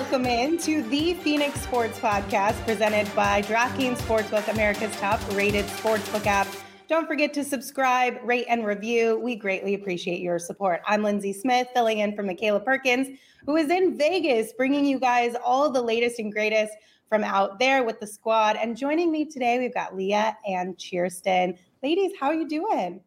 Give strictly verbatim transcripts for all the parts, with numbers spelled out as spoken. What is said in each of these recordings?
welcome in to the Phoenix Sports Podcast presented by DraftKings Sportsbook, America's top-rated sportsbook app. Don't forget to subscribe, rate, and review. We greatly appreciate your support. I'm Lindsay Smith, filling in for Michaela Perkins, who is in Vegas, bringing you guys all the latest and greatest from out there with the squad. And joining me today, we've got Leah and Kirsten. Ladies, how are you doing?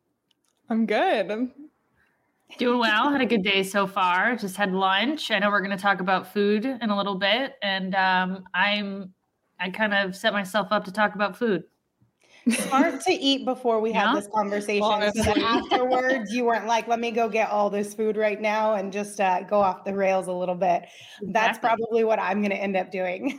I'm good. I'm Doing well. Had a good day so far. Just had lunch. I know we're going to talk about food in a little bit, and um, I'm I kind of set myself up to talk about food. Smart to eat before we yeah. had this conversation. Honestly. So that afterwards, you weren't like, "Let me go get all this food right now and just uh, go off the rails a little bit." Exactly. That's probably what I'm going to end up doing.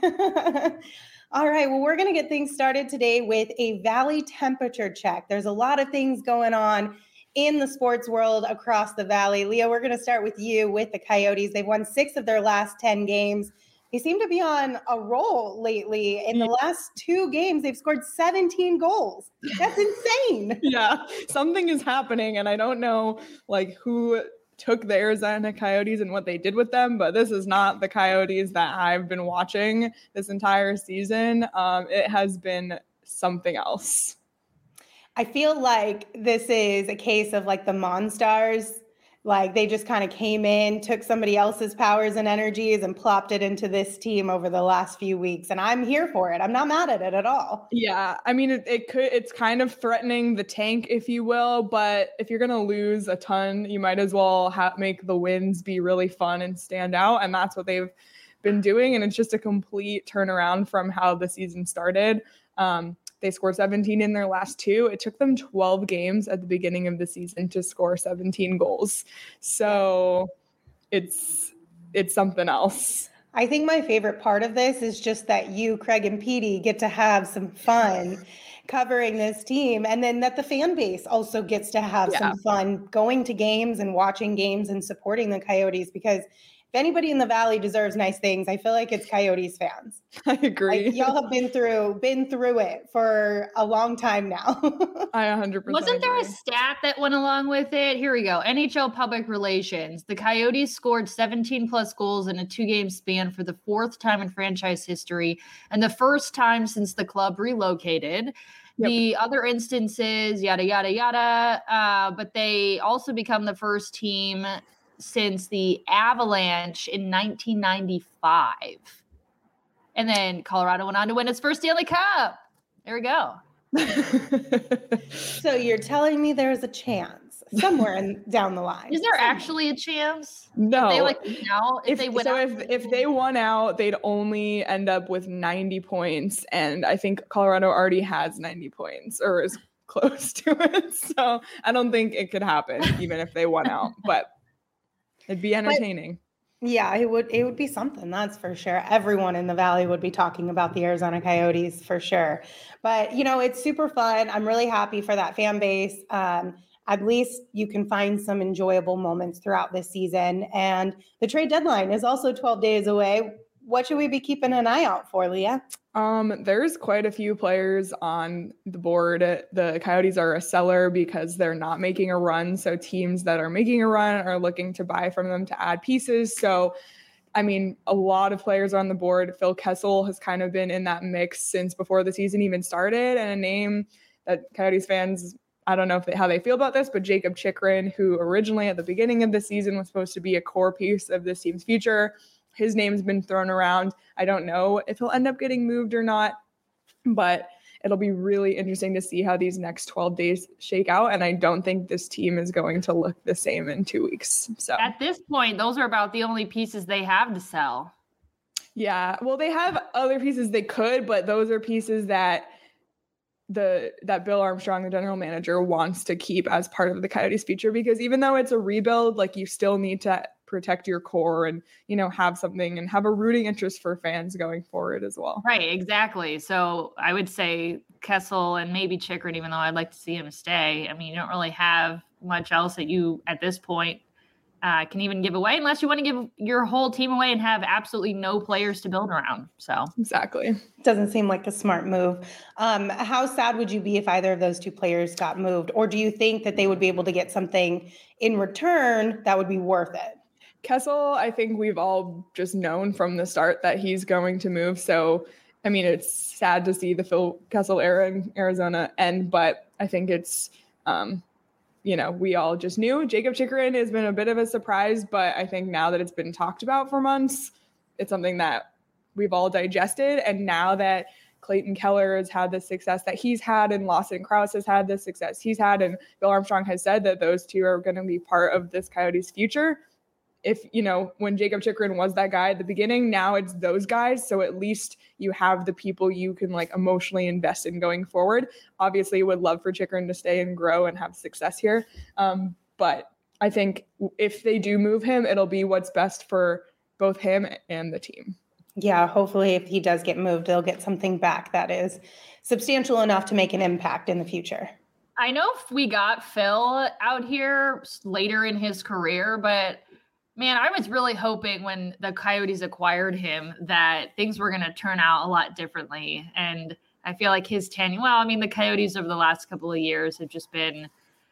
All right. Well, we're going to get things started today with a Valley temperature check. There's a lot of things going on in the sports world across the Valley. Leah, we're going to start with you with the Coyotes. They've won six of their last ten games. They seem to be on a roll lately. In the last two games, they've scored seventeen goals. That's insane. Yeah, something is happening, and I don't know like who took the Arizona Coyotes and what they did with them, but this is not the Coyotes that I've been watching this entire season. Um, it has been something else. I feel like this is a case of like the Monstars. Like they just kind of came in, took somebody else's powers and energies and plopped it into this team over the last few weeks. And I'm here for it. I'm not mad at it at all. Yeah. I mean, it, it could, it's kind of threatening the tank, if you will, but if you're going to lose a ton, you might as well ha- make the wins be really fun and stand out. And that's what they've been doing. And it's just a complete turnaround from how the season started. Um, They scored seventeen in their last two. It took them twelve games at the beginning of the season to score seventeen goals. So it's it's something else. I think my favorite part of this is just that you, Craig, and Petey get to have some fun covering this team, and then that the fan base also gets to have yeah. some fun going to games and watching games and supporting the Coyotes, because if anybody in the Valley deserves nice things, I feel like it's Coyotes fans. I agree. Like, y'all have been through been through it for a long time now. I one hundred percent Wasn't there agree. a stat that went along with it? Here we go. N H L Public Relations. The Coyotes scored seventeen plus goals in a two-game span for the fourth time in franchise history and the first time since the club relocated. Yep. The other instances, yada, yada, yada. Uh, but they also become the first team since the Avalanche in nineteen ninety-five. And then Colorado went on to win its first Stanley Cup. There we go. So you're telling me there's a chance somewhere in, down the line. Is there actually a chance? No. If they like win out, if, if they win so out, if, if they won out, they'd only end up with ninety points. And I think Colorado already has ninety points or is close to it. So I don't think it could happen even if they won out. But it'd be entertaining. But, yeah, it would it would be something, that's for sure. Everyone in the Valley would be talking about the Arizona Coyotes for sure. But, you know, it's super fun. I'm really happy for that fan base. Um, at least you can find some enjoyable moments throughout this season. And the trade deadline is also twelve days away. What should we be keeping an eye out for, Leah? Um, there's quite a few players on the board. The Coyotes are a seller because they're not making a run. So teams that are making a run are looking to buy from them to add pieces. So, I mean, a lot of players are on the board. Phil Kessel has kind of been in that mix since before the season even started. And a name that Coyotes fans, I don't know if they, how they feel about this, but Jacob Chychrun, who originally at the beginning of the season was supposed to be a core piece of this team's future. His name's been thrown around. I don't know if he'll end up getting moved or not, but it'll be really interesting to see how these next twelve days shake out. And I don't think this team is going to look the same in two weeks. So at this point, those are about the only pieces they have to sell. Yeah. Well, they have other pieces they could, but those are pieces that the that Bill Armstrong, the general manager, wants to keep as part of the Coyotes future, because even though it's a rebuild, like you still need to protect your core and, you know, have something and have a rooting interest for fans going forward as well. Right, exactly. So I would say Kessel and maybe Chychrun, even though I'd like to see him stay. I mean, you don't really have much else that you, at this point, uh, can even give away, unless you want to give your whole team away and have absolutely no players to build around. So exactly. Doesn't seem like a smart move. Um, how sad would you be if either of those two players got moved? Or do you think that they would be able to get something in return that would be worth it? Kessel, I think we've all just known from the start that he's going to move. So, I mean, it's sad to see the Phil Kessel era in Arizona end, but I think it's, um, you know, we all just knew. Jakob Chychrun has been a bit of a surprise, but I think now that it's been talked about for months, it's something that we've all digested. And now that Clayton Keller has had the success that he's had, and Lawson Crouse has had the success he's had, and Bill Armstrong has said that those two are going to be part of this Coyotes future. If, you know, when Jakob Chychrun was that guy at the beginning, now it's those guys. So at least you have the people you can like emotionally invest in going forward. Obviously, would love for Chychrun to stay and grow and have success here. Um, but I think if they do move him, it'll be what's best for both him and the team. Yeah, hopefully if he does get moved, they'll get something back that is substantial enough to make an impact in the future. I know we got Phil out here later in his career, but man, I was really hoping when the Coyotes acquired him that things were going to turn out a lot differently. And I feel like his tenure, well, I mean, the Coyotes over the last couple of years have just been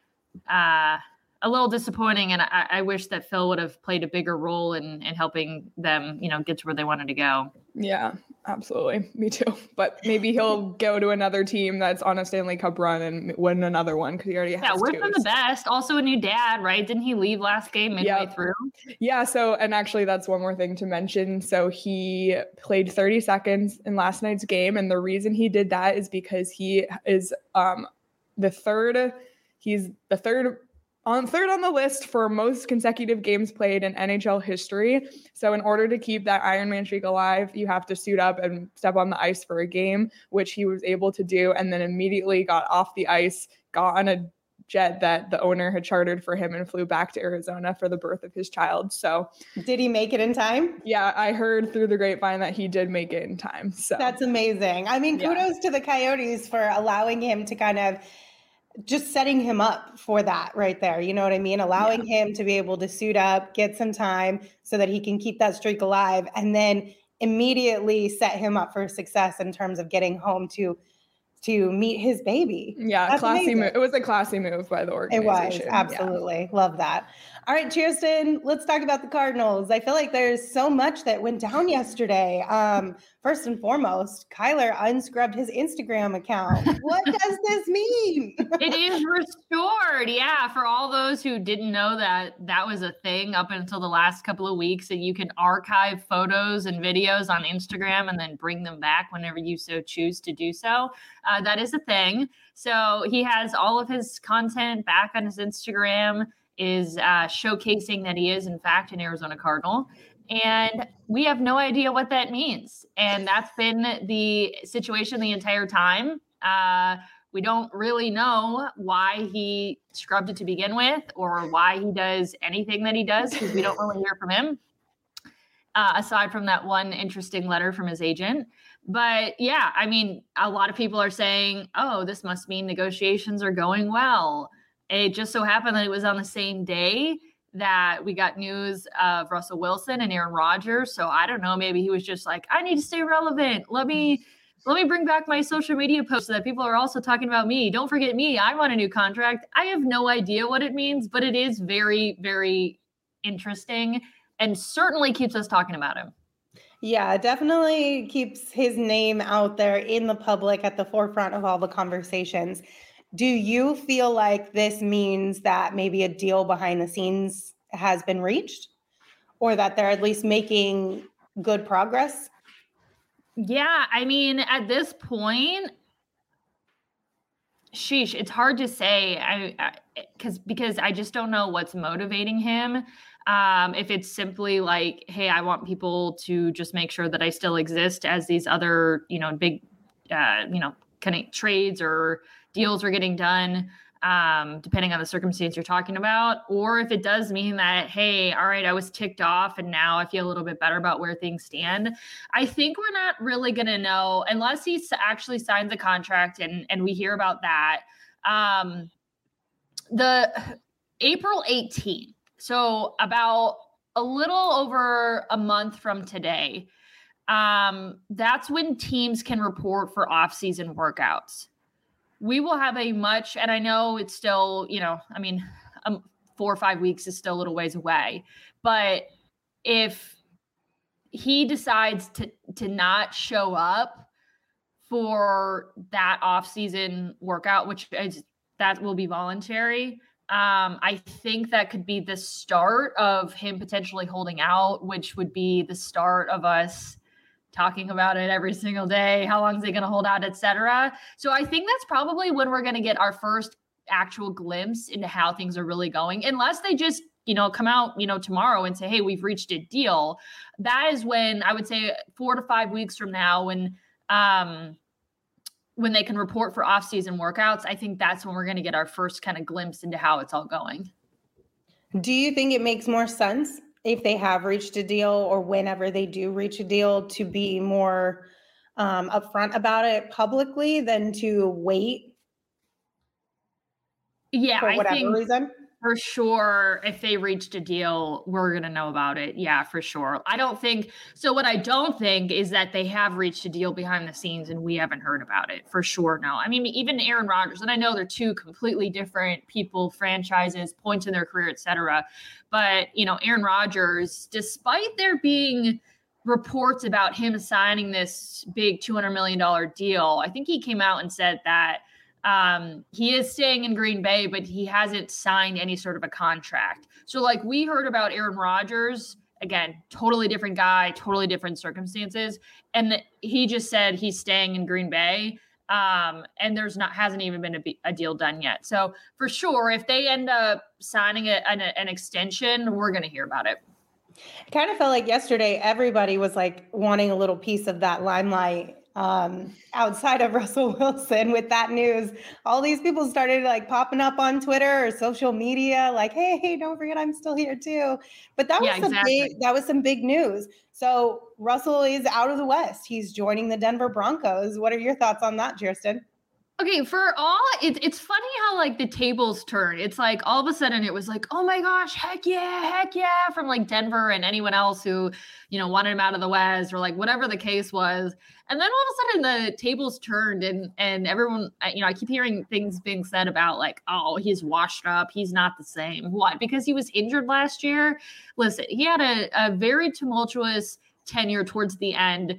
uh, a little disappointing. And I, I wish that Phil would have played a bigger role in, in helping them, you know, get to where they wanted to go. Yeah, absolutely. Me too. But maybe he'll go to another team that's on a Stanley Cup run and win another one because he already has yeah, wish two. him the best. Also a new dad, right? Didn't he leave last game midway yep. through? Yeah. So, and actually that's one more thing to mention. So he played thirty seconds in last night's game. And the reason he did that is because he is um, the third, he's the third on third on the list for most consecutive games played in N H L history. So in order to keep that Iron Man streak alive, you have to suit up and step on the ice for a game, which he was able to do. And then immediately got off the ice, got on a jet that the owner had chartered for him and flew back to Arizona for the birth of his child. So did he make it in time? Yeah, I heard through the grapevine that he did make it in time. So that's amazing. I mean, kudos yeah. to the Coyotes for allowing him to kind of just setting him up for that right there. You know what I mean? Allowing yeah. him to be able to suit up, get some time so that he can keep that streak alive, and then immediately set him up for success in terms of getting home to to meet his baby. Yeah, That's classy move. It was a classy move by the organization. It was, absolutely. Yeah. Love that. All right, Kirsten, let's talk about the Cardinals. I feel like there's so much that went down yesterday. Um, first and foremost, Kyler unscrubbed his Instagram account. What does this mean? It is restored. Yeah, for all those who didn't know that that was a thing up until the last couple of weeks, that you can archive photos and videos on Instagram and then bring them back whenever you so choose to do so. Uh, that is a thing. So he has all of his content back on his Instagram, is uh, showcasing that he is, in fact, an Arizona Cardinal. And we have no idea what that means. And that's been the situation the entire time. Uh, we don't really know why he scrubbed it to begin with, or why he does anything that he does, because we don't really hear from him, uh, aside from that one interesting letter from his agent. But yeah, I mean, a lot of people are saying, oh, this must mean negotiations are going well. It just so happened that it was on the same day that we got news of Russell Wilson and Aaron Rodgers. So I don't know, maybe he was just like, I need to stay relevant. Let me let me bring back my social media posts so that people are also talking about me. Don't forget me. I want a new contract. I have no idea what it means, but it is very, very interesting and certainly keeps us talking about him. Yeah, definitely keeps his name out there in the public at the forefront of all the conversations. Do you feel like this means that maybe a deal behind the scenes has been reached, or that they're at least making good progress? Yeah, I mean, at this point, sheesh, it's hard to say. I because because I just don't know what's motivating him. Um, if it's simply like, hey, I want people to just make sure that I still exist as these other, you know, big, uh, you know, kind of trades or deals are getting done, um, depending on the circumstance you're talking about, or if it does mean that, hey, all right, I was ticked off and now I feel a little bit better about where things stand. I think we're not really going to know unless he actually signs a contract and, and we hear about that. Um, the April eighteenth, so about a little over a month from today, um, that's when teams can report for off-season workouts. We will have a much, and I know it's still, you know, I mean, um, four or five weeks is still a little ways away, but if he decides to to not show up for that off-season workout, which is, that will be voluntary, um, I think that could be the start of him potentially holding out, which would be the start of us talking about it every single day. How long is he going to hold out, et cetera. So I think that's probably when we're going to get our first actual glimpse into how things are really going, unless they just, you know, come out, you know, tomorrow and say, hey, we've reached a deal. That is when I would say four to five weeks from now, when, um, when they can report for off-season workouts, I think that's when we're going to get our first kind of glimpse into how it's all going. Do you think it makes more sense if they have reached a deal, or whenever they do reach a deal, to be more um, upfront about it publicly than to wait? Yeah, for whatever I think reason? For sure, if they reached a deal, we're going to know about it. Yeah, for sure. I don't think so. What I don't think is that they have reached a deal behind the scenes and we haven't heard about it. For sure, no. I mean, even Aaron Rodgers, and I know they're two completely different people, franchises, points in their career, et cetera. But, you know, Aaron Rodgers, despite there being reports about him signing this big two hundred million dollars deal, I think he came out and said that Um, he is staying in Green Bay, but he hasn't signed any sort of a contract. So like we heard about Aaron Rodgers, again, totally different guy, totally different circumstances. And the, he just said he's staying in Green Bay. Um, and there's not, hasn't even been a, a deal done yet. So for sure, if they end up signing a, an, an extension, we're going to hear about it. I kind of felt like yesterday, everybody was like wanting a little piece of that limelight. Um, outside of Russell Wilson with that news, all these people started like popping up on Twitter or social media, like, hey, hey, don't forget I'm still here too. But that was Yeah, some exactly. big, that was some big news. So Russell is out of the West. He's joining the Denver Broncos. What are your thoughts on that, Kirsten? Okay, for all, it's it's funny how like the tables turn. It's like all of a sudden it was like, oh my gosh, heck yeah, heck yeah, from like Denver and anyone else who, you know, wanted him out of the West or like whatever the case was. And then all of a sudden the tables turned and and everyone, you know, I keep hearing things being said about like, oh, he's washed up. He's not the same. Why? Because he was injured last year. Listen, he had a, a very tumultuous tenure towards the end.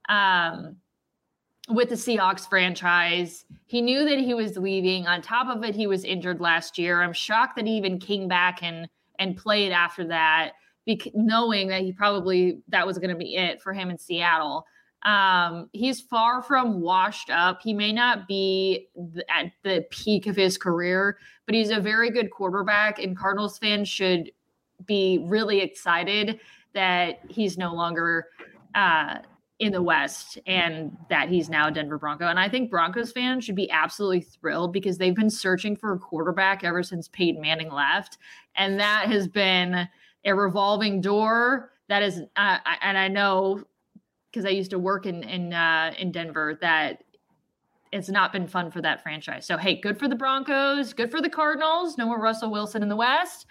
Um, with the Seahawks franchise. He knew that he was leaving. On top of it, he was injured last year. I'm shocked that he even came back and and played after that, bec- knowing that he probably, that was going to be it for him in Seattle. Um, he's far from washed up. He may not be th- at the peak of his career, but he's a very good quarterback, and Cardinals fans should be really excited that he's no longer uh, in the West and that he's now a Denver Bronco. And I think Broncos fans should be absolutely thrilled because they've been searching for a quarterback ever since Peyton Manning left. And that has been a revolving door that is, uh, and I know because I used to work in, in, uh, in Denver, that it's not been fun for that franchise. So, hey, good for the Broncos, good for the Cardinals. No more Russell Wilson in the West.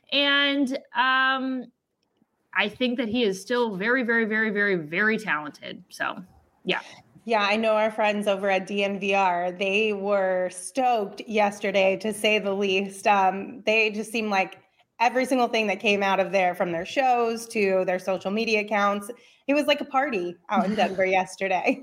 And, um, I think that he is still very, very, very, very, very talented. So, yeah. Yeah, I know our friends over at D N V R. They were stoked yesterday, to say the least. Um, they just seemed like every single thing that came out of there, from their shows to their social media accounts, it was like a party out in Denver yesterday.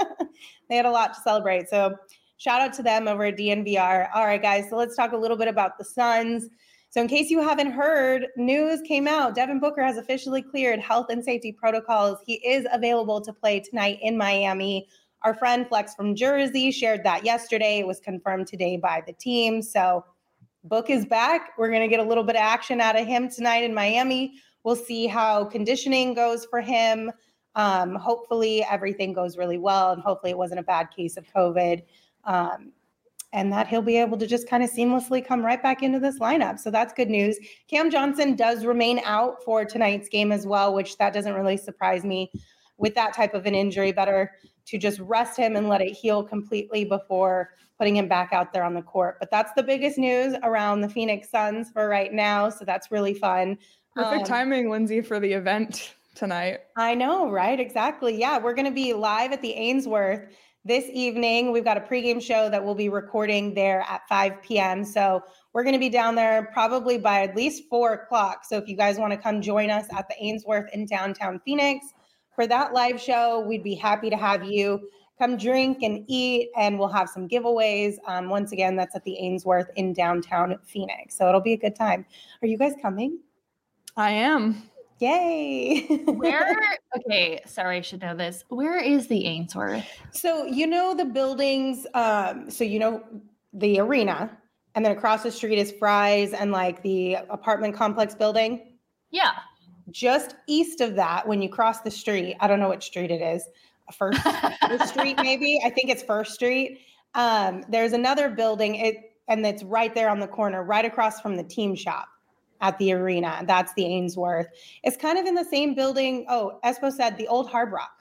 They had a lot to celebrate. So shout out to them over at D N V R. All right, guys, so let's talk a little bit about the Suns. So in case you haven't heard, news came out. Devin Booker has officially cleared health and safety protocols. He is available to play tonight in Miami. Our friend Flex from Jersey shared that yesterday. It was confirmed today by the team. So Book is back. We're going to get a little bit of action out of him tonight in Miami. We'll see how conditioning goes for him. Um, hopefully everything goes really well, and hopefully it wasn't a bad case of COVID. Um, and that he'll be able to just kind of seamlessly come right back into this lineup. So that's good news. Cam Johnson does remain out for tonight's game as well, which that doesn't really surprise me. With that type of an injury, better to just rest him and let it heal completely before putting him back out there on the court. But that's the biggest news around the Phoenix Suns for right now. So that's really fun. Perfect um, timing, Lindsay, for the event tonight. I know, right? Exactly. Yeah, we're going to be live at the Ainsworth this evening. We've got a pregame show that we'll be recording there at five p.m. So We're going to be down there probably by at least four o'clock. So if you guys want to come join us at the Ainsworth in downtown Phoenix for that live show, we'd be happy to have you come drink and eat, and we'll have some giveaways. Um, once again, that's at the Ainsworth in downtown Phoenix. So it'll be a good time. Are you guys coming? I am. Yay. Where? Okay, sorry, I should know this. Where is the Ainsworth? So, you know, the buildings, um, so, you know, the arena, and then across the street is Fry's and like the apartment complex building. Yeah. Just east of that, when you cross the street, I don't know what street it is. First, first Street, maybe. I think it's First Street. Um, there's another building, it and it's right there on the corner, right across from the team shop at the arena. That's the Ainsworth. It's kind of in the same building. Oh, Espo said the old Hard Rock.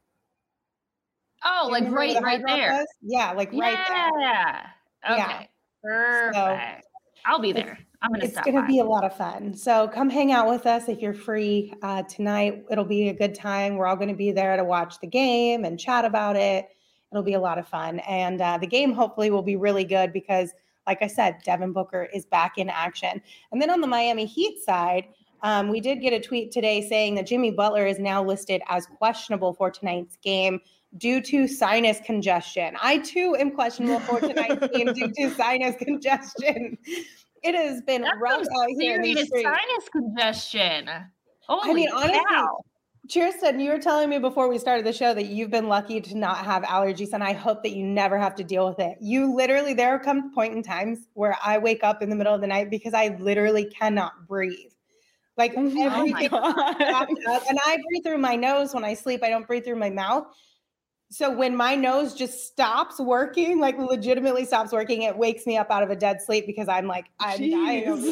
Oh, like right, the right there. Was? Yeah, like yeah. right there. Yeah. Okay. Yeah. Perfect. So, I'll be there. I'm gonna. It's gonna by. be a lot of fun. So come hang out with us if you're free uh, tonight. It'll be a good time. We're all going to be there to watch the game and chat about it. It'll be a lot of fun, and uh, the game hopefully will be really good because, like I said, Devin Booker is back in action. And then on the Miami Heat side, um, we did get a tweet today saying that Jimmy Butler is now listed as questionable for tonight's game due to sinus congestion. I too am questionable for tonight's game due to sinus congestion. It has been That's rough out here in these streets. Sinus congestion. Holy I mean, honestly, cow. Kirsten, you were telling me before we started the show that you've been lucky to not have allergies, and I hope that you never have to deal with it. You literally, there come point in times where I wake up in the middle of the night because I literally cannot breathe. Like oh everything, up, and I breathe through my nose when I sleep. I don't breathe through my mouth. So when my nose just stops working, like legitimately stops working, it wakes me up out of a dead sleep because I'm like, I'm Jeez. dying over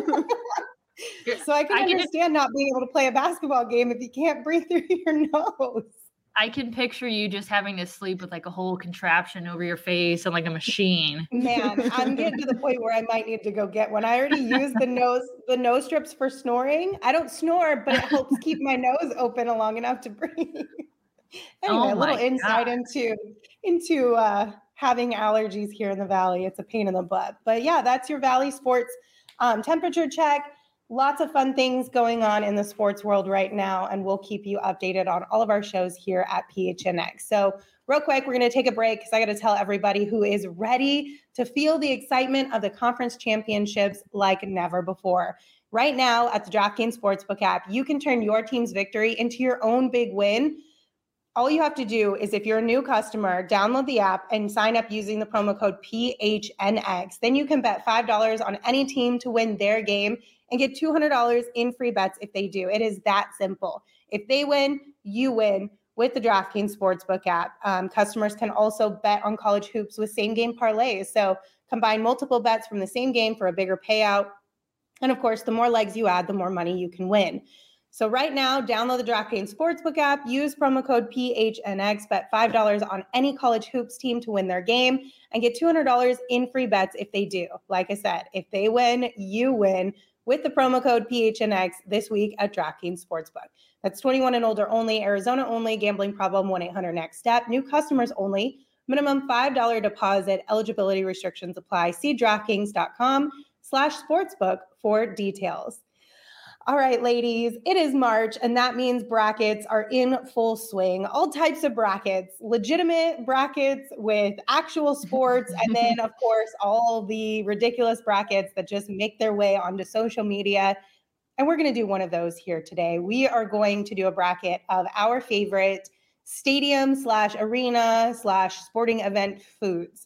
here. So I can I understand can, not being able to play a basketball game if you can't breathe through your nose. I can picture you just having to sleep with like a whole contraption over your face and like a machine. Man, I'm getting to the point where I might need to go get one. I already use the nose, the nose strips for snoring. I don't snore, but it helps keep my nose open long enough to breathe. Anyway, oh a little insight God. into into uh, having allergies here in the Valley. It's a pain in the butt. But yeah, that's your Valley Sports um, temperature check. Lots of fun things going on in the sports world right now, and we'll keep you updated on all of our shows here at P H N X. So real quick, we're going to take a break because I got to tell everybody who is ready to feel the excitement of the conference championships like never before. Right now at the DraftKings Sportsbook app, you can turn your team's victory into your own big win. All you have to do is, if you're a new customer, download the app and sign up using the promo code P H N X. Then you can bet five dollars on any team to win their game and get two hundred dollars in free bets if they do. It is that simple. If they win, you win with the DraftKings Sportsbook app. Um, customers can also bet on college hoops with same-game parlays. So combine multiple bets from the same game for a bigger payout. And of course, the more legs you add, the more money you can win. So right now, download the DraftKings Sportsbook app, use promo code P H N X, bet five dollars on any college hoops team to win their game, and get two hundred dollars in free bets if they do. Like I said, if they win, you win with the promo code P H N X this week at DraftKings Sportsbook. That's twenty-one and older only, Arizona only, gambling problem, one eight hundred next step, new customers only, minimum five dollars deposit, eligibility restrictions apply. See DraftKings.com slash sportsbook for details. All right, ladies, it is March, and that means brackets are in full swing. All types of brackets, legitimate brackets with actual sports, and then, of course, all the ridiculous brackets that just make their way onto social media. And we're going to do one of those here today. We are going to do a bracket of our favorite stadium slash arena slash sporting event foods.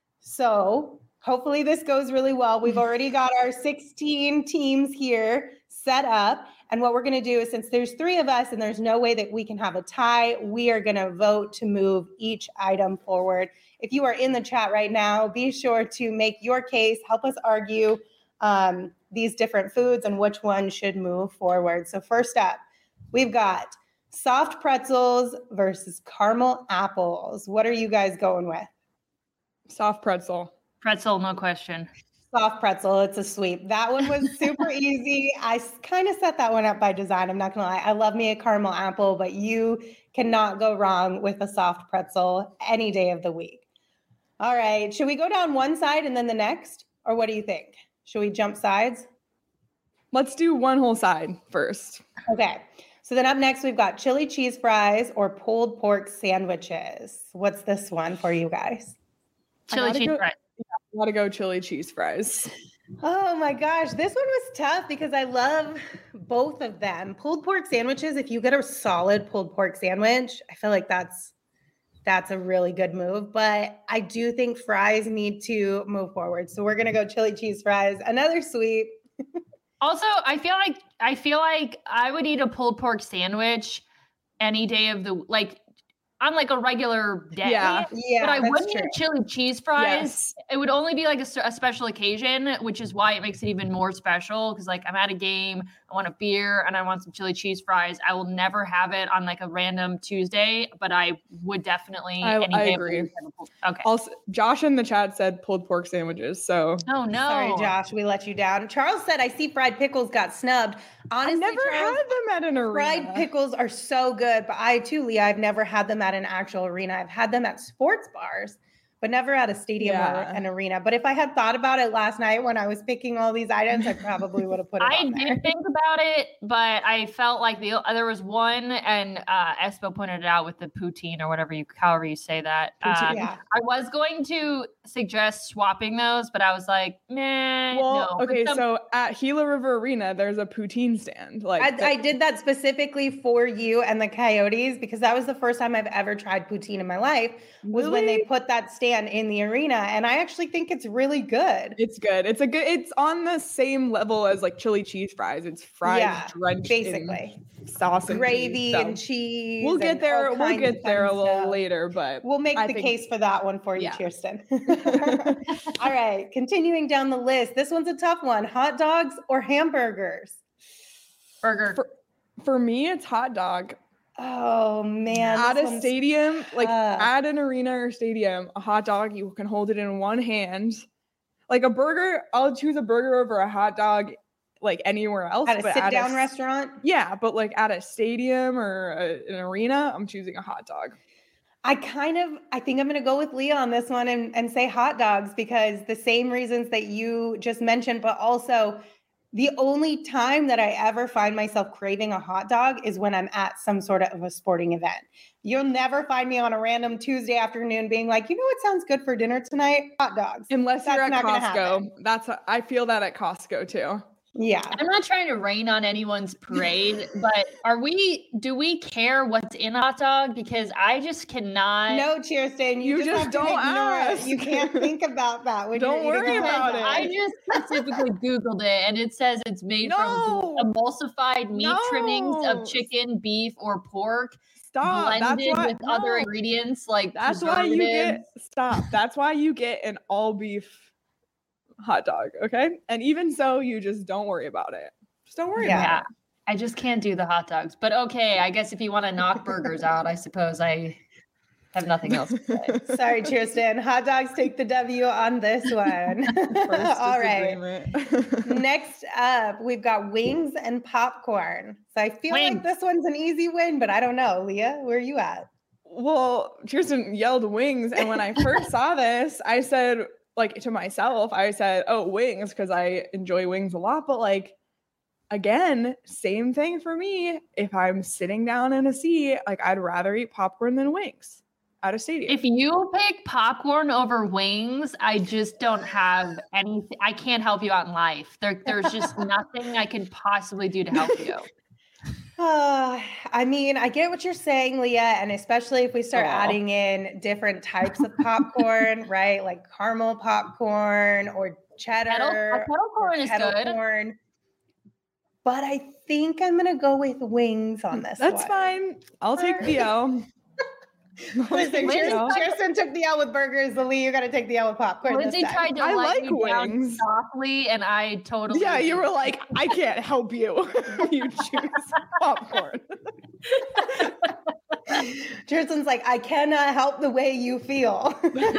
So hopefully this goes really well. We've already got our sixteen teams here set up. And what we're going to do is, since there's three of us and there's no way that we can have a tie, we are going to vote to move each item forward. If you are in the chat right now, be sure to make your case, help us argue um, these different foods and which one should move forward. So first up, we've got soft pretzels versus caramel apples. What are you guys going with? Soft pretzel. Pretzel, no question. Soft pretzel. It's a sweep. That one was super easy. I kind of set that one up by design. I'm not going to lie. I love me a caramel apple, but you cannot go wrong with a soft pretzel any day of the week. All right. Should we go down one side and then the next? Or what do you think? Should we jump sides? Let's do one whole side first. Okay. So then up next, we've got chili cheese fries or pulled pork sandwiches. What's this one for you guys? Chili cheese go, fries. Yeah, I gotta go chili cheese fries. Oh my gosh, this one was tough because I love both of them. Pulled pork sandwiches, if you get a solid pulled pork sandwich, I feel like that's that's a really good move. But I do think fries need to move forward. So we're gonna go chili cheese fries, another sweet. Also, I feel like I feel like I would eat a pulled pork sandwich any day of the like on like a regular day. Yeah, yeah. But I that's wouldn't true. eat chili cheese fries. Yes. It would only be like a, s- a special occasion, which is why it makes it even more special. Because like I'm at a game, I want a beer, and I want some chili cheese fries. I will never have it on like a random Tuesday, but I would definitely. I- any I day of the agree. week have a pulled- Okay. Also, Josh in the chat said pulled pork sandwiches. So Oh no! Sorry, Josh, we let you down. Charles said, I see fried pickles got snubbed. Honestly, I never Charles, had them at an arena. fried pickles are so good, but I too, Leah, I've never had them at an actual arena. I've had them at sports bars, but never at a stadium or Yeah. an arena. But if I had thought about it last night when I was picking all these items, I probably would have put it I on there. did think about it, but I felt like the there was one, and uh, Espo pointed it out with the poutine or whatever you, however you say that. Poutine, Um, yeah. I was going to suggest swapping those, but I was like, nah. Well, no. okay, But some- so at Gila River Arena, there's a poutine stand. Like I, the- I did that specifically for you and the Coyotes because that was the first time I've ever tried poutine in my life was when they Really? put that stand in the arena. And I actually think it's really good. It's good. It's a good. It's on the same level as like chili cheese fries. It's fries Yeah, drenched basically. in sauce and Gravy cheese, so and cheese. We'll get and there. all We'll kinds of get there a fun little stuff. later, but We'll make I the think- case for that one for you, Yeah. Kirsten. All right, continuing down the list. This one's a tough one. Hot dogs or hamburgers? burger. For, for me, it's hot dog. Oh man. At this a one's stadium, like tough. at an arena or stadium, a hot dog, you can hold it in one hand. Like a burger, I'll choose a burger over a hot dog like anywhere else. At a but sit down s- restaurant? Yeah, but like at a stadium or a, an arena, I'm choosing a hot dog. I kind of, I think I'm going to go with Leah on this one and, and say hot dogs because the same reasons that you just mentioned, but also the only time that I ever find myself craving a hot dog is when I'm at some sort of a sporting event. You'll never find me on a random Tuesday afternoon being like, you know what sounds good for dinner tonight? Hot dogs. Unless That's you're at not gonna happen. Costco. That's I feel that at Costco too. Yeah. I'm not trying to rain on anyone's parade, but are we? Do we care what's in a hot dog? Because I just cannot. No, Cheerston, you, You just, just have to don't ignore ask. it. You can't think about that when Don't you're eating worry a hot about dog. it. I just specifically Googled it and it says it's made No. from emulsified meat trimmings No. of chicken, beef, or pork, Stop. That's blended why, with other no. ingredients like That's why you get preservatives. stop. That's why you get an all beef hot dog. Okay. And even so, you just don't worry about it. Just don't worry Yeah. about Yeah, it. I just can't do the hot dogs. But okay, I guess if you want to knock burgers out, I suppose I have nothing else to say. Sorry, Cheerston. Hot dogs take the W on this one. First All right. disagreement. Next up, we've got wings and popcorn. So I feel like Wings. this one's an easy win, but I don't know. Leah, where are you at? Well, Kirsten yelled wings. And when I first saw this, I said, like to myself, I said, oh, wings, because I enjoy wings a lot. But like, again, same thing for me. If I'm sitting down in a seat, like I'd rather eat popcorn than wings at a stadium. If you pick popcorn over wings, I just don't have anything. I can't help you out in life. There, there's just nothing I can possibly do to help you. Uh, I mean, I get what you're saying, Leah, and especially if we start Aw. adding in different types of popcorn, right? Like caramel popcorn or cheddar. Kettle, kettle or corn is kettle good. corn. But I think I'm gonna go with wings on this That's one. fine. I'll take the L. I'll Listen, take the Kirsten, L. Kirsten took the L with burgers. The Lee, you got to take the L with popcorn. Lindsay this time. tried to I let like you down wings. softly, and I totally. Yeah, you were like, I can't help you. You choose popcorn. Kirsten's like, I cannot help the way you feel.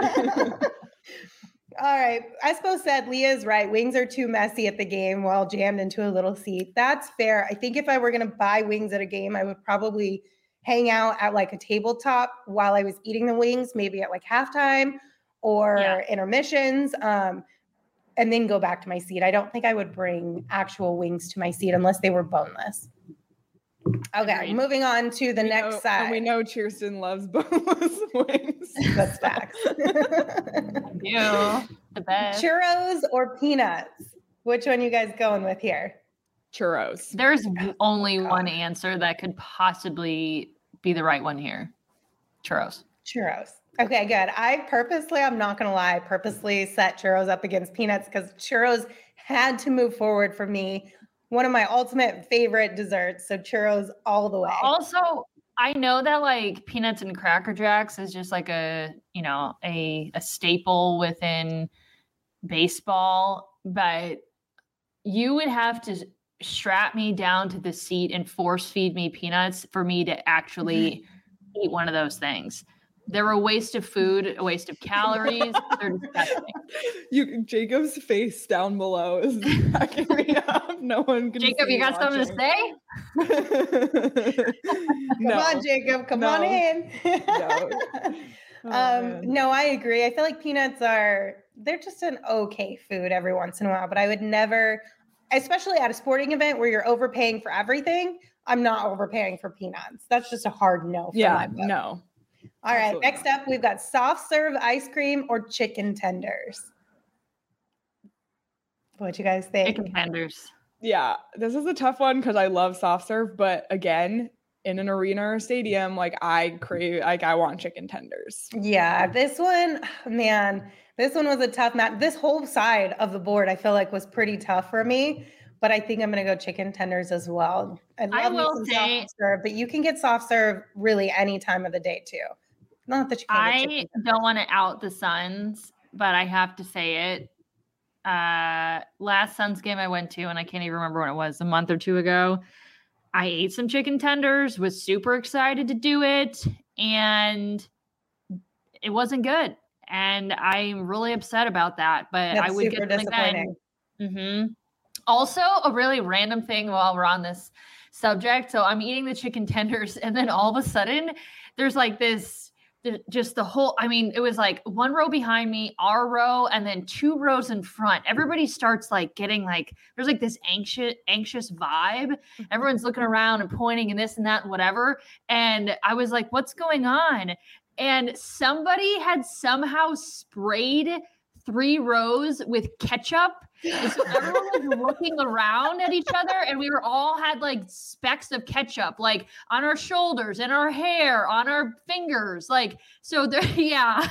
All right. Espo said Leah's right. Wings are too messy at the game while jammed into a little seat. That's fair. I think if I were going to buy wings at a game, I would probably hang out at like a tabletop while I was eating the wings, maybe at like halftime or Yeah. intermissions. Um, and then go back to my seat. I don't think I would bring actual wings to my seat unless they were boneless. Okay, Agreed. Moving on to the We next know, side. And we know Kirsten loves boneless wings. That's facts. Yeah, the best. Churros or peanuts? Which one you guys going with here? Churros. There's only God. one answer that could possibly be the right one here. Churros. Churros. Okay, good. I purposely, I'm not going to lie, purposely set churros up against peanuts because churros had to move forward for me. One of my ultimate favorite desserts. So churros all the way. Also, I know that like peanuts and Cracker Jacks is just like a, you know, a, a staple within baseball, but you would have to strap me down to the seat and force feed me peanuts for me to actually eat one of those things. They're a waste of food, a waste of calories. They're disgusting. You, Jacob's face down below is cracking me up. No one can Jacob, see you got watching. something to say? Come No. on, Jacob. Come No. on in. No. Oh, um, man. no, I agree. I feel like peanuts are, they're just an okay food every once in a while, but I would never, especially at a sporting event where you're overpaying for everything, I'm not overpaying for peanuts. That's just a hard no for Yeah, my book. no. All right, Absolutely next up, we've got soft serve ice cream or chicken tenders. What you guys think? Chicken tenders. Yeah, this is a tough one because I love soft serve, but again, in an arena or stadium, like I crave, like I want chicken tenders. Yeah, this one, man, this one was a tough match. This whole side of the board, I feel like was pretty tough for me, but I think I'm going to go chicken tenders as well. I love I me will some say- soft serve, but you can get soft serve really any time of the day too. Not that you can get I chicken tenders. don't want to out the Suns, but I have to say it. Uh, last Suns game I went to, and I can't even remember when it was, a month or two ago, I ate some chicken tenders, was super excited to do it, and it wasn't good. And I'm really upset about that, but That's I would super get them disappointing. again. Mm-hmm. Also, a really random thing while we're on this subject. So I'm eating the chicken tenders, and then all of a sudden, there's like this, just the whole, I mean, it was like one row behind me, our row, and then two rows in front. Everybody starts like getting like, there's like this anxious, anxious vibe. Everyone's looking around and pointing and this and that and whatever. And I was like, what's going on? And somebody had somehow sprayed three rows with ketchup. And so everyone was looking around at each other, and we were all had like specks of ketchup, like on our shoulders and our hair, on our fingers. Like, so there, yeah.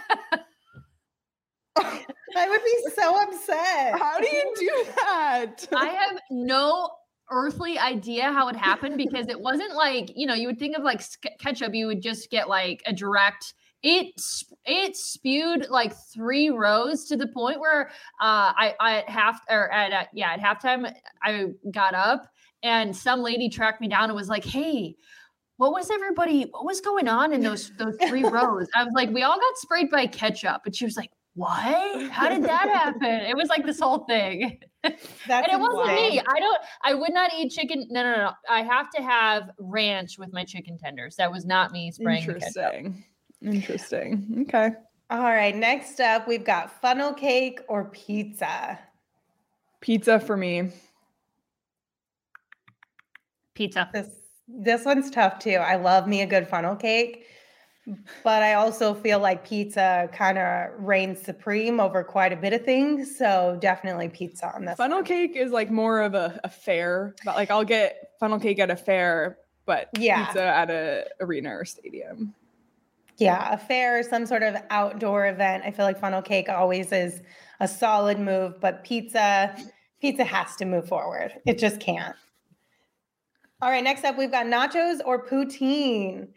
I would be so upset. How do you do that? I have no earthly idea how it happened, because it wasn't like, you know, you would think of like sk- ketchup, you would just get like a direct, it it spewed like three rows to the point where uh I, I at half or at uh, yeah at halftime I got up and some lady tracked me down and was like, hey, what was everybody what was going on in those those three rows? I was like, we all got sprayed by ketchup. And she was like, what? How did that happen? It was like this whole thing. That's And it wasn't insane. me. I don't, I would not eat chicken. No, no, no. I have to have ranch with my chicken tenders. That was not me spraying the ketchup. Interesting. Interesting. Okay. All right, next up, we've got funnel cake or pizza. Pizza for me. Pizza. This this one's tough too. I love me a good funnel cake, but I also feel like pizza kind of reigns supreme over quite a bit of things. So definitely pizza on this. Funnel one. cake is like more of a, a fair, but like I'll get funnel cake at a fair, but Yeah. pizza at a arena or stadium. Yeah, a fair, some sort of outdoor event. I feel like funnel cake always is a solid move, but pizza, pizza has to move forward. It just can't. All right, next up, we've got nachos or poutine.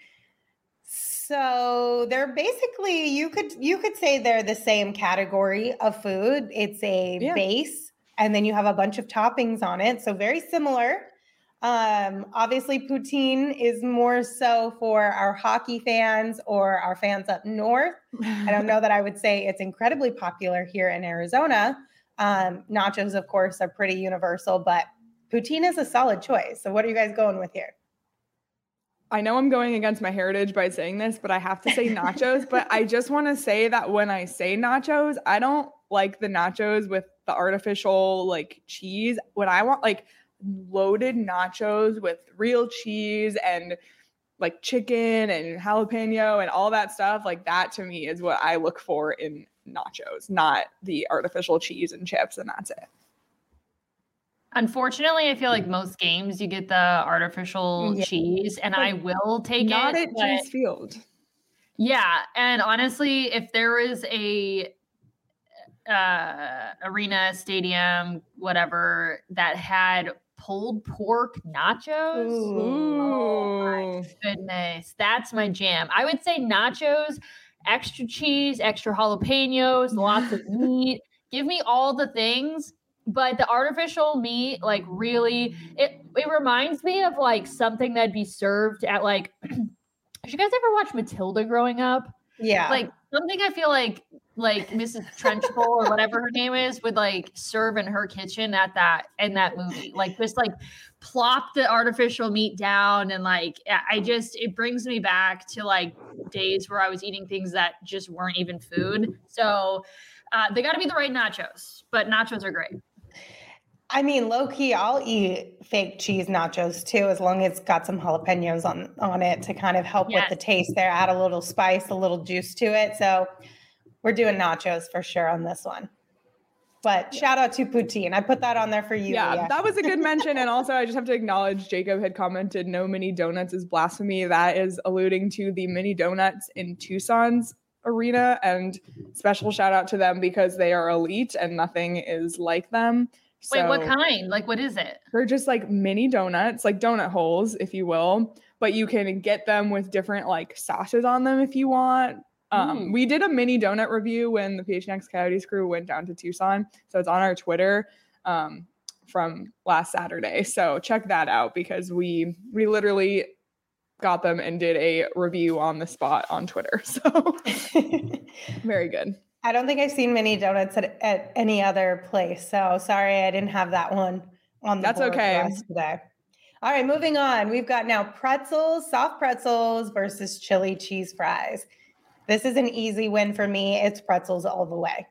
So they're basically, you could you could say they're the same category of food. It's a Yeah. base, and then you have a bunch of toppings on it. So very similar. Um, obviously, poutine is more so for our hockey fans or our fans up north. I don't know that I would say it's incredibly popular here in Arizona. Um, nachos, of course, are pretty universal, but poutine is a solid choice. So what are you guys going with here? I know I'm going against my heritage by saying this, but I have to say nachos. But I just want to say that when I say nachos, I don't like the nachos with the artificial like cheese. When I want like loaded nachos with real cheese and like chicken and jalapeno and all that stuff, like that to me is what I look for in nachos, not the artificial cheese and chips, and that's it. Unfortunately, I feel like most games you get the artificial yeah. cheese, and but I will take not it. Not at Chase Field. Yeah, and honestly, if there is a uh, arena, stadium, whatever that had pulled pork nachos, Ooh. Oh my goodness, that's my jam. I would say nachos, extra cheese, extra jalapenos, lots of meat. Give me all the things. But the artificial meat, like really, it it reminds me of like something that'd be served at like, did you guys ever watch Matilda growing up? Yeah. Like something I feel like like Missus Trenchbull or whatever her name is would like serve in her kitchen at that in that movie. Like just like plop the artificial meat down and like I just it brings me back to like days where I was eating things that just weren't even food. So uh, they got to be the right nachos, but nachos are great. I mean, low key, I'll eat fake cheese nachos too, as long as it's got some jalapenos on, on it to kind of help yes. with the taste there, add a little spice, a little juice to it. So we're doing nachos for sure on this one. But shout out to poutine. I put that on there for you. Yeah, Leah. That was a good mention. And also I just have to acknowledge Jacob had commented, no mini donuts is blasphemy. That is alluding to the mini donuts in Tucson's arena, and special shout out to them because they are elite and nothing is like them. Wait, So, what kind? Like, what is it? They're just like mini donuts, like donut holes, if you will, but you can get them with different like sauces on them if you want. Um, mm. We did a mini donut review when the P H N X Coyotes crew went down to Tucson. So it's on our Twitter um, from last Saturday. So check that out because we we literally got them and did a review on the spot on Twitter. So very good. I don't think I've seen mini donuts at, at any other place. So sorry, I didn't have that one on the That's board okay. for us today. All right, moving on. We've got now pretzels, soft pretzels versus chili cheese fries. This is an easy win for me. It's pretzels all the way.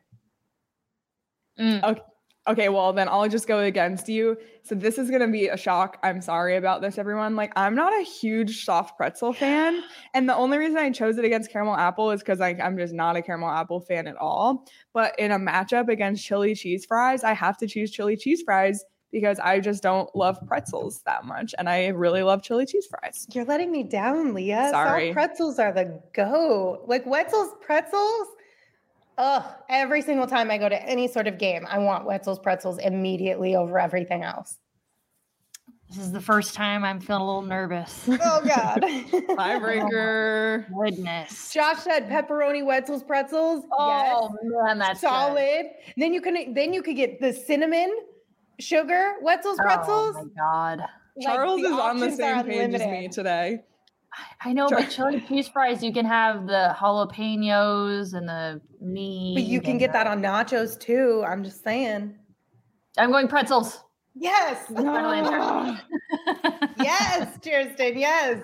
Mm. Okay. Okay, well, then I'll just go against you. So this is going to be a shock. I'm sorry about this, everyone. Like, I'm not a huge soft pretzel fan. And the only reason I chose it against caramel apple is because like, I'm just not a caramel apple fan at all. But in a matchup against chili cheese fries, I have to choose chili cheese fries because I just don't love pretzels that much. And I really love chili cheese fries. You're letting me down, Leah. Sorry. Soft pretzels are the go. Like Wetzel's pretzels. Ugh, every single time I go to any sort of game, I want Wetzel's pretzels immediately over everything else. This is the first time I'm feeling a little nervous. Oh, God. Tiebreaker. Oh, goodness. Josh said pepperoni Wetzel's pretzels. Oh, yes. man, that's solid. Good. Then you can then you could get the cinnamon sugar Wetzel's pretzels. Oh, my God. Like, Charles is on the same are page as me today. I know, but chili cheese fries, you can have the jalapenos and the meat. But you can get that on nachos too. I'm just saying. I'm going pretzels. Yes. No. Yes, Kirsten. Yes.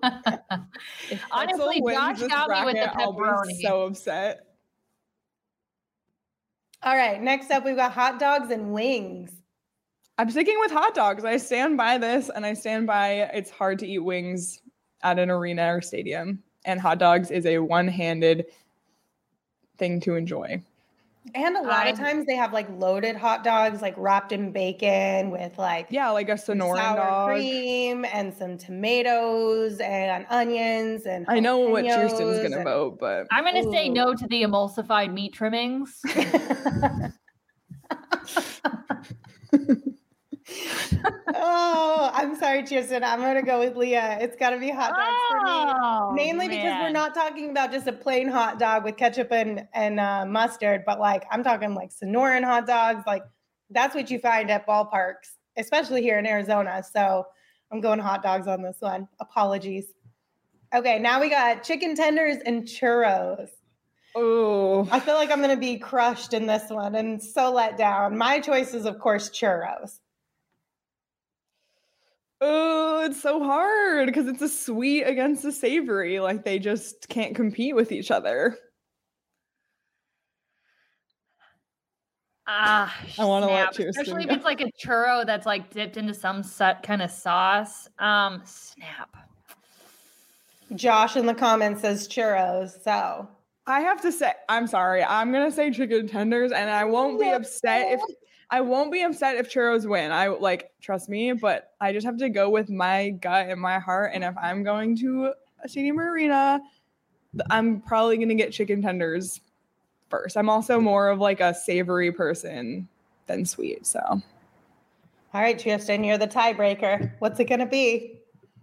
Honestly, Josh got bracket, me with the pepperoni. I'll be so upset. All right. Next up, we've got hot dogs and wings. I'm sticking with hot dogs. I stand by this, and I stand by it's hard to eat wings at an arena or stadium, and hot dogs is a one-handed thing to enjoy. And a lot I, of times they have like loaded hot dogs, like wrapped in bacon with like yeah, like a Sonoran sour dog, cream and some tomatoes and onions and. I know what Kirsten's gonna and, vote, but I'm gonna ooh. say no to the emulsified meat trimmings. Oh, I'm sorry, Kirsten. I'm going to go with Leah. It's got to be hot dogs oh, for me. Mainly man. because we're not talking about just a plain hot dog with ketchup and, and uh, mustard, but like I'm talking like Sonoran hot dogs. Like that's what you find at ballparks, especially here in Arizona. So I'm going hot dogs on this one. Apologies. Okay, now we got chicken tenders and churros. Oh, I feel like I'm going to be crushed in this one and so let down. My choice is, of course, churros. Oh, it's so hard because it's a sweet against a savory. Like they just can't compete with each other. Ah, I want to let snap. Kirsten Especially go. if it's like a churro that's like dipped into some set kind of sauce. Um, snap. Josh in the comments says churros. So I have to say, I'm sorry. I'm gonna say chicken tenders, and I won't be upset if I won't be upset if churros win. I like trust me, but I just have to go with my gut and my heart. And if I'm going to a stadium or arena, I'm probably gonna get chicken tenders first. I'm also more of like a savory person than sweet. So, all right, Tristan, you're the tiebreaker. What's it gonna be?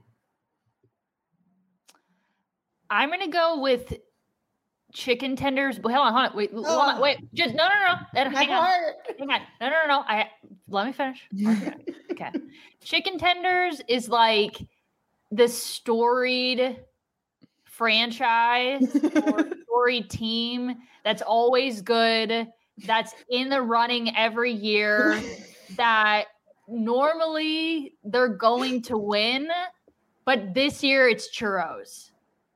I'm gonna go with chicken tenders. Hold on, hold on. Wait, hold on, Oh. wait. Just no, no, no. no. My Hang on. heart. Hang on. No, no, no, no. I let me finish. Let me finish. Okay. Chicken tenders is like the storied franchise or storied team that's always good, that's in the running every year, that normally they're going to win, but this year it's churros.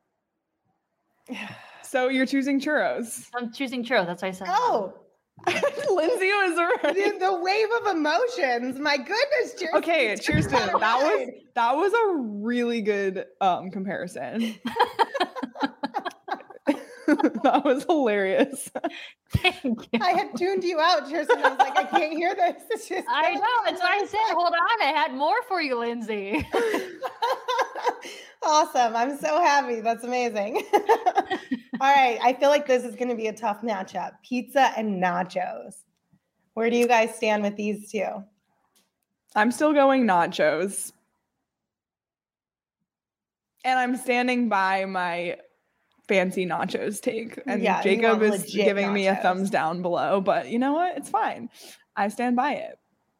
so you're choosing churros. I'm choosing churros. That's what I said. Oh, Lindsay was right. the, the wave of emotions. My goodness, Kirsten. Okay, Kirsten, that was that was a really good um comparison. That was hilarious. Thank you. I had tuned you out, Kirsten. I was like, I can't hear this. It's just I know. That's why I said, hold on. I had more for you, Lindsay. Awesome. I'm so happy. That's amazing. All right. I feel like this is going to be a tough matchup. Pizza and nachos. Where do you guys stand with these two? I'm still going nachos. And I'm standing by my fancy nachos take. And Yeah, you Jacob want is legit giving me a nachos. thumbs down below. But you know what? It's fine. I stand by it.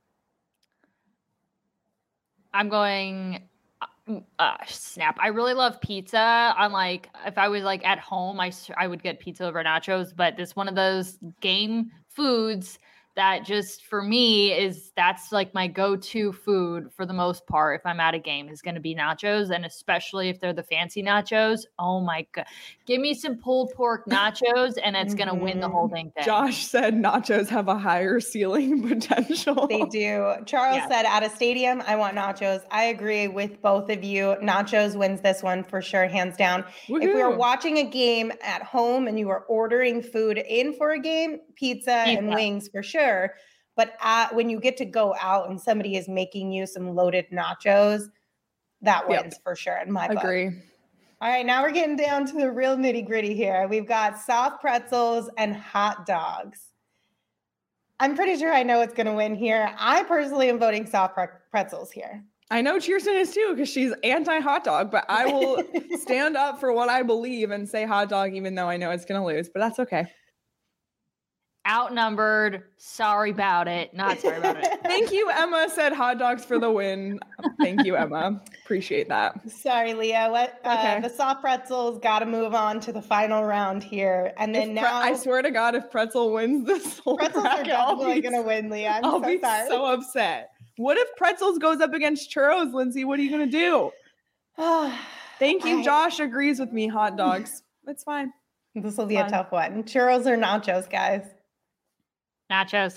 I'm going uh, snap. I really love pizza. I'm like, if I was like at home, I, s- I would get pizza over nachos, but this one of those game foods that just for me is that's like my go-to food for the most part. If I'm at a game, is going to be nachos, and especially if they're the fancy nachos. Oh my god, give me some pulled pork nachos, and it's going to win the whole dang thing. Josh said nachos have a higher ceiling potential. They do. Charles Yes. said at a stadium, I want nachos. I agree with both of you. Nachos wins this one for sure, hands down. If we were Woohoo. watching a game at home and you were ordering food in for a game, pizza, and Pizza. wings for sure. But at, when you get to go out and somebody is making you some loaded nachos, that Yep. wins for sure in my book. Agree. All right, now we're getting down to the real nitty gritty here. We've got soft pretzels and hot dogs. I'm pretty sure I know what's going to win here. I personally am voting soft pre- pretzels here. I know Kirsten is too because she's anti-hot dog, but I will stand up for what I believe and say hot dog even though I know it's going to lose, but that's okay. Outnumbered. Sorry about it. Not sorry about it. Thank you, Emma said hot dogs for the win. Thank you, Emma. Appreciate that. Sorry, Leah. What uh, Okay. the soft pretzels got to move on to the final round here, and then If pre- now I swear to God, if Pretzel wins this whole pretzels are bracket, I'll definitely be, going to win, Leah. I'm I'll so be sorry. so upset. What if Pretzels goes up against Churros, Lindsay? What are you going to do? Thank you. I- Josh agrees with me. Hot dogs. It's fine. This will be a Fine. tough one. Churros or nachos, guys? Nachos.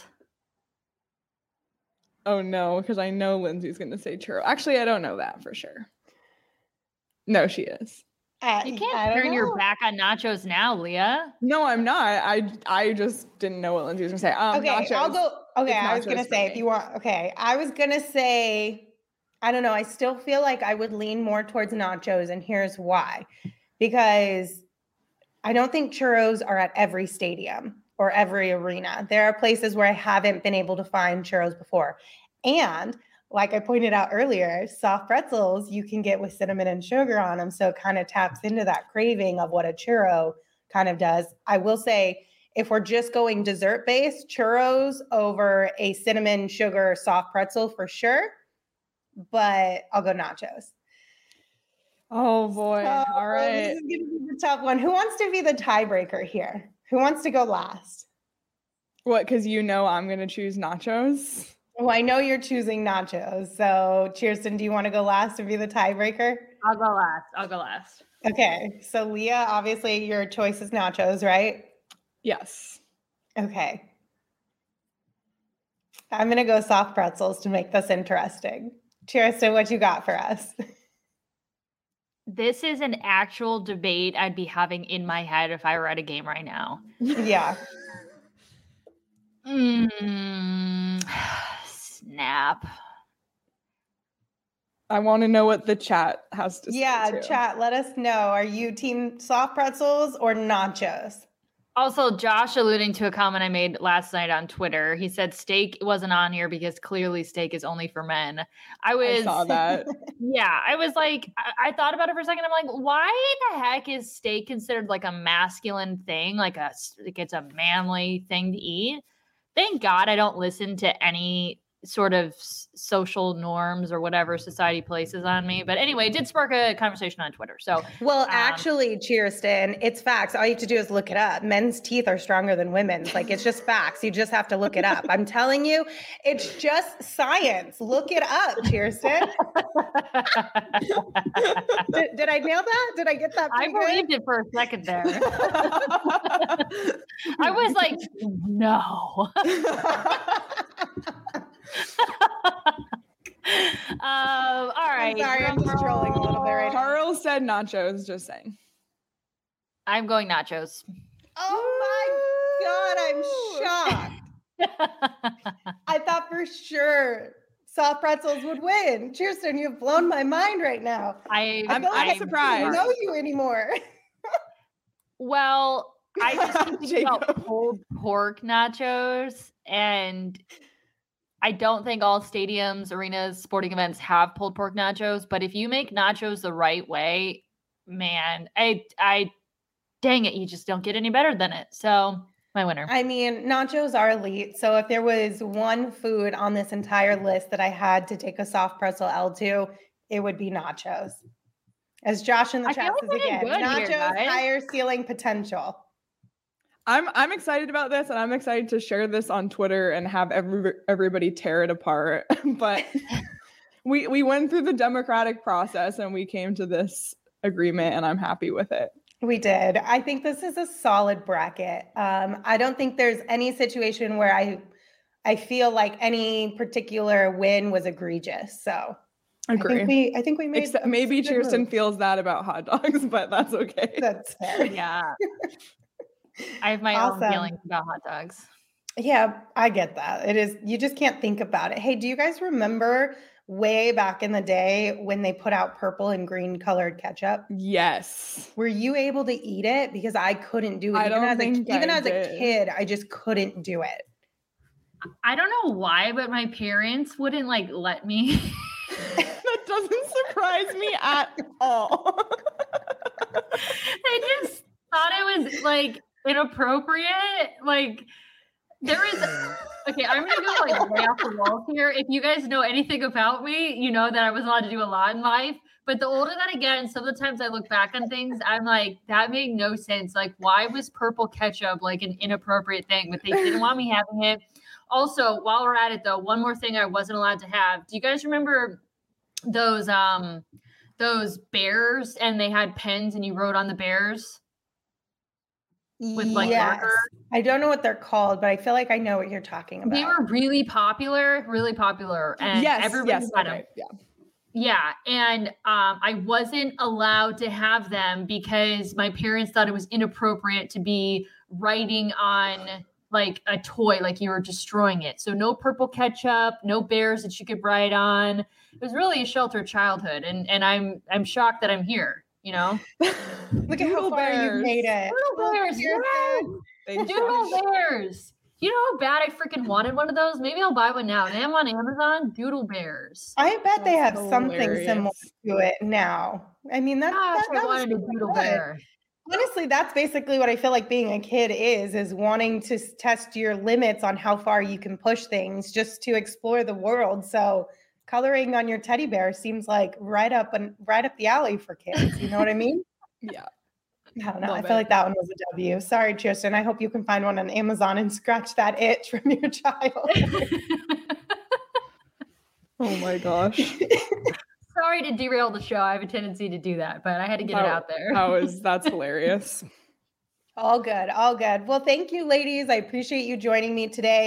Oh no, because I know Lindsay's going to say churro. Actually, I don't know that for sure. No, she is. Uh, You I can't don't turn your know. back on nachos now, Leah. No, I'm not. I I just didn't know what Lindsay was going to say. Um, Okay, nachos. I'll go. Okay, It's I was gonna nachos for say if me. you want. Okay, I was gonna say. I don't know. I still feel like I would lean more towards nachos, and here's why: because I don't think churros are at every stadium or every arena. There are places where I haven't been able to find churros before, and like I pointed out earlier, soft pretzels you can get with cinnamon and sugar on them, so it kind of taps into that craving of what a churro kind of does. I will say, if we're just going dessert based, churros over a cinnamon sugar soft pretzel for sure, but I'll go nachos. Oh boy. So, All right. This is going to be the tough one. Who wants to be the tiebreaker here? Who wants to go last? What? Because you know I'm going to choose nachos. Well, I know you're choosing nachos. So, Kirsten, do you want to go last and be the tiebreaker? I'll go last. I'll go last. Okay. So, Leah, obviously your choice is nachos, right? Yes. Okay. I'm going to go soft pretzels to make this interesting. Kirsten, what you got for us? This is an actual debate I'd be having in my head if I were at a game right now. Yeah. Mm, snap. I want to know what the chat has to yeah, say. Yeah, chat, let us know. Are you team soft pretzels or nachos? Also, Josh alluding to a comment I made last night on Twitter. He said steak wasn't on here because clearly steak is only for men. I was I saw that. Yeah, I was like, I, I thought about it for a second. I'm like, why the heck is steak considered like a masculine thing? Like a like it's a manly thing to eat. Thank God I don't listen to any sort of social norms or whatever society places on me. But anyway, it did spark a conversation on Twitter. So, well, um, actually, Kirsten, it's facts. All you have to do is look it up. Men's teeth are stronger than women's. Like, it's just facts. You just have to look it up. I'm telling you, it's just science. Look it up, Kirsten. did, did I nail that? Did I get that? I believed good? it for a second there. I was like, no. um, all right. I'm sorry, I'm just trolling a little bit right now. Carl said nachos, just saying. I'm going nachos. Oh my God, I'm shocked. I thought for sure soft pretzels would win. Kirsten, you've blown my mind right now. I, I'm, I I'm like surprised. I don't know you anymore. Well, I just keep thinking about Jacob. pulled pork nachos, and I don't think all stadiums, arenas, sporting events have pulled pork nachos. But if you make nachos the right way, man, I, I, dang it, you just don't get any better than it. So my winner. I mean, nachos are elite. So if there was one food on this entire list that I had to take a soft pretzel L to, it would be nachos. As Josh in the I chat feel says like again, we're good here, nachos, guys. higher ceiling potential. I'm I'm excited about this, and I'm excited to share this on Twitter and have every, everybody tear it apart. But we we went through the democratic process and we came to this agreement, and I'm happy with it. We did. I think this is a solid bracket. Um, I don't think there's any situation where I I feel like any particular win was egregious. So Agree. I think we I think we made Except a maybe good Kirsten move. feels that about hot dogs, but that's okay. That's fair. Yeah. I have my Awesome. own feelings about hot dogs. Yeah, I get that. It is, you just can't think about it. Hey, do you guys remember way back in the day when they put out purple and green colored ketchup? Yes. Were you able to eat it? Because I couldn't do it. I even don't as a, think even I as did. a kid, I just couldn't do it. I don't know why, but my parents wouldn't like let me. That doesn't surprise me at all. They just thought it was like inappropriate. Like there is okay, I'm gonna go like way off the wall here. If you guys know anything about me, you know that I was allowed to do a lot in life. But the older that I get, and some of the times I look back on things, I'm like, that made no sense. Like, why was purple ketchup like an inappropriate thing? But they didn't want me having it. Also, while we're at it though, one more thing I wasn't allowed to have. Do you guys remember those um those bears and they had pens and you wrote on the bears? With like Yes. marker? I don't know what they're called, but I feel like I know what you're talking about. They were really popular, really popular. And yes, everybody yes, had okay, them. yeah. Yeah. And um, I wasn't allowed to have them because my parents thought it was inappropriate to be writing on like a toy, like you were destroying it. So no purple ketchup, no bears that you could write on. It was really a sheltered childhood. And and I'm I'm shocked that I'm here, you know? Look at how Doodle far bears. you made it. Doodle bears, You're yeah. good. Thank Doodle you. bears. You know how bad I freaking wanted one of those? Maybe I'll buy one now. They have on Amazon. Doodle bears. I bet they have That's something similar hilarious. to it now. I mean, that, Gosh, that, that I was wanted a super doodle good. bear. Honestly, that's basically what I feel like being a kid is, is wanting to s- test your limits on how far you can push things just to explore the world. So coloring on your teddy bear seems like right up and right up the alley for kids. You know what I mean? Yeah. I don't know. Love I feel it. like that one was a W. Sorry, Kirsten. I hope you can find one on Amazon and scratch that itch from your child. Oh my gosh. Sorry to derail the show. I have a tendency to do that, but I had to get it That- out there. That was that's hilarious. All good. All good. Well, thank you, ladies. I appreciate you joining me today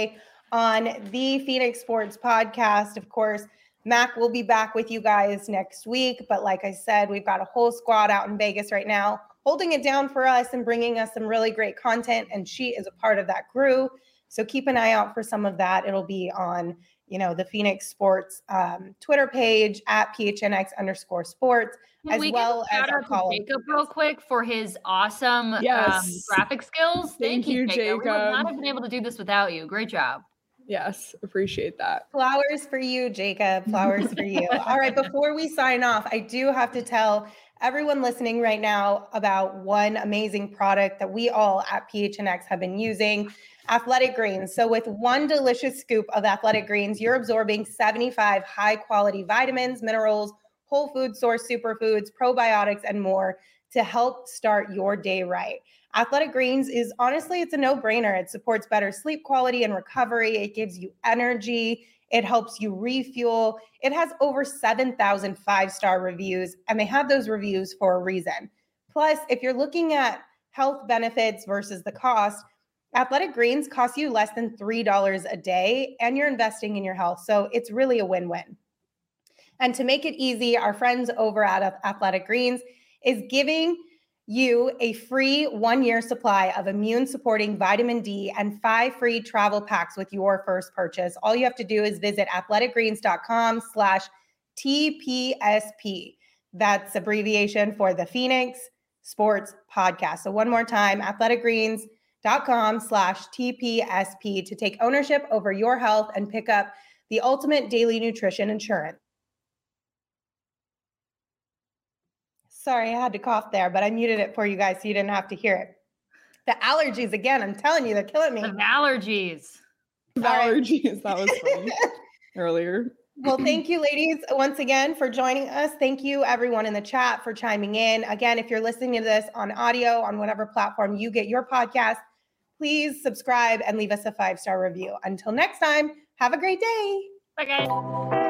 on the Phoenix Sports Podcast. Of course, Mac will be back with you guys next week. But like I said, we've got a whole squad out in Vegas right now, holding it down for us and bringing us some really great content. And she is a part of that crew. So keep an eye out for some of that. It'll be on, you know, the Phoenix Sports um, Twitter page at P H N X underscore sports, Can as we well give a as shout our out to call. Jacob real quick for his awesome Yes. um, graphic skills. Thank Thank, you, you, Jacob. We would Jacob. not have been able to do this without you. Great job. Yes, appreciate that. Flowers for you, Jacob. Flowers for you. All right, before we sign off, I do have to tell everyone listening right now about one amazing product that we all at P H N X have been using, Athletic Greens. So with one delicious scoop of Athletic Greens, you're absorbing seventy-five high-quality vitamins, minerals, whole food source superfoods, probiotics, and more to help start your day right. Athletic Greens is honestly, it's a no-brainer. It supports better sleep quality and recovery. It gives you energy. It helps you refuel. It has over seven thousand five-star reviews, and they have those reviews for a reason. Plus, if you're looking at health benefits versus the cost, Athletic Greens costs you less than three dollars a day, and you're investing in your health. So it's really a win-win. And to make it easy, our friends over at Athletic Greens is giving you a free one-year supply of immune-supporting vitamin D and five free travel packs with your first purchase. All you have to do is visit athleticgreens.com slash TPSP. That's abbreviation for the Phoenix Sports Podcast. So one more time, athleticgreens.com slash TPSP to take ownership over your health and pick up the ultimate daily nutrition insurance. Sorry, I had to cough there, but I muted it for you guys so you didn't have to hear it. The allergies, again, I'm telling you, they're killing me. The allergies. The allergies, that was funny earlier. Well, thank you, ladies, once again for joining us. Thank you, everyone in the chat, for chiming in. Again, if you're listening to this on audio, on whatever platform you get your podcast, please subscribe and leave us a five-star review. Until next time, have a great day. Bye, guys.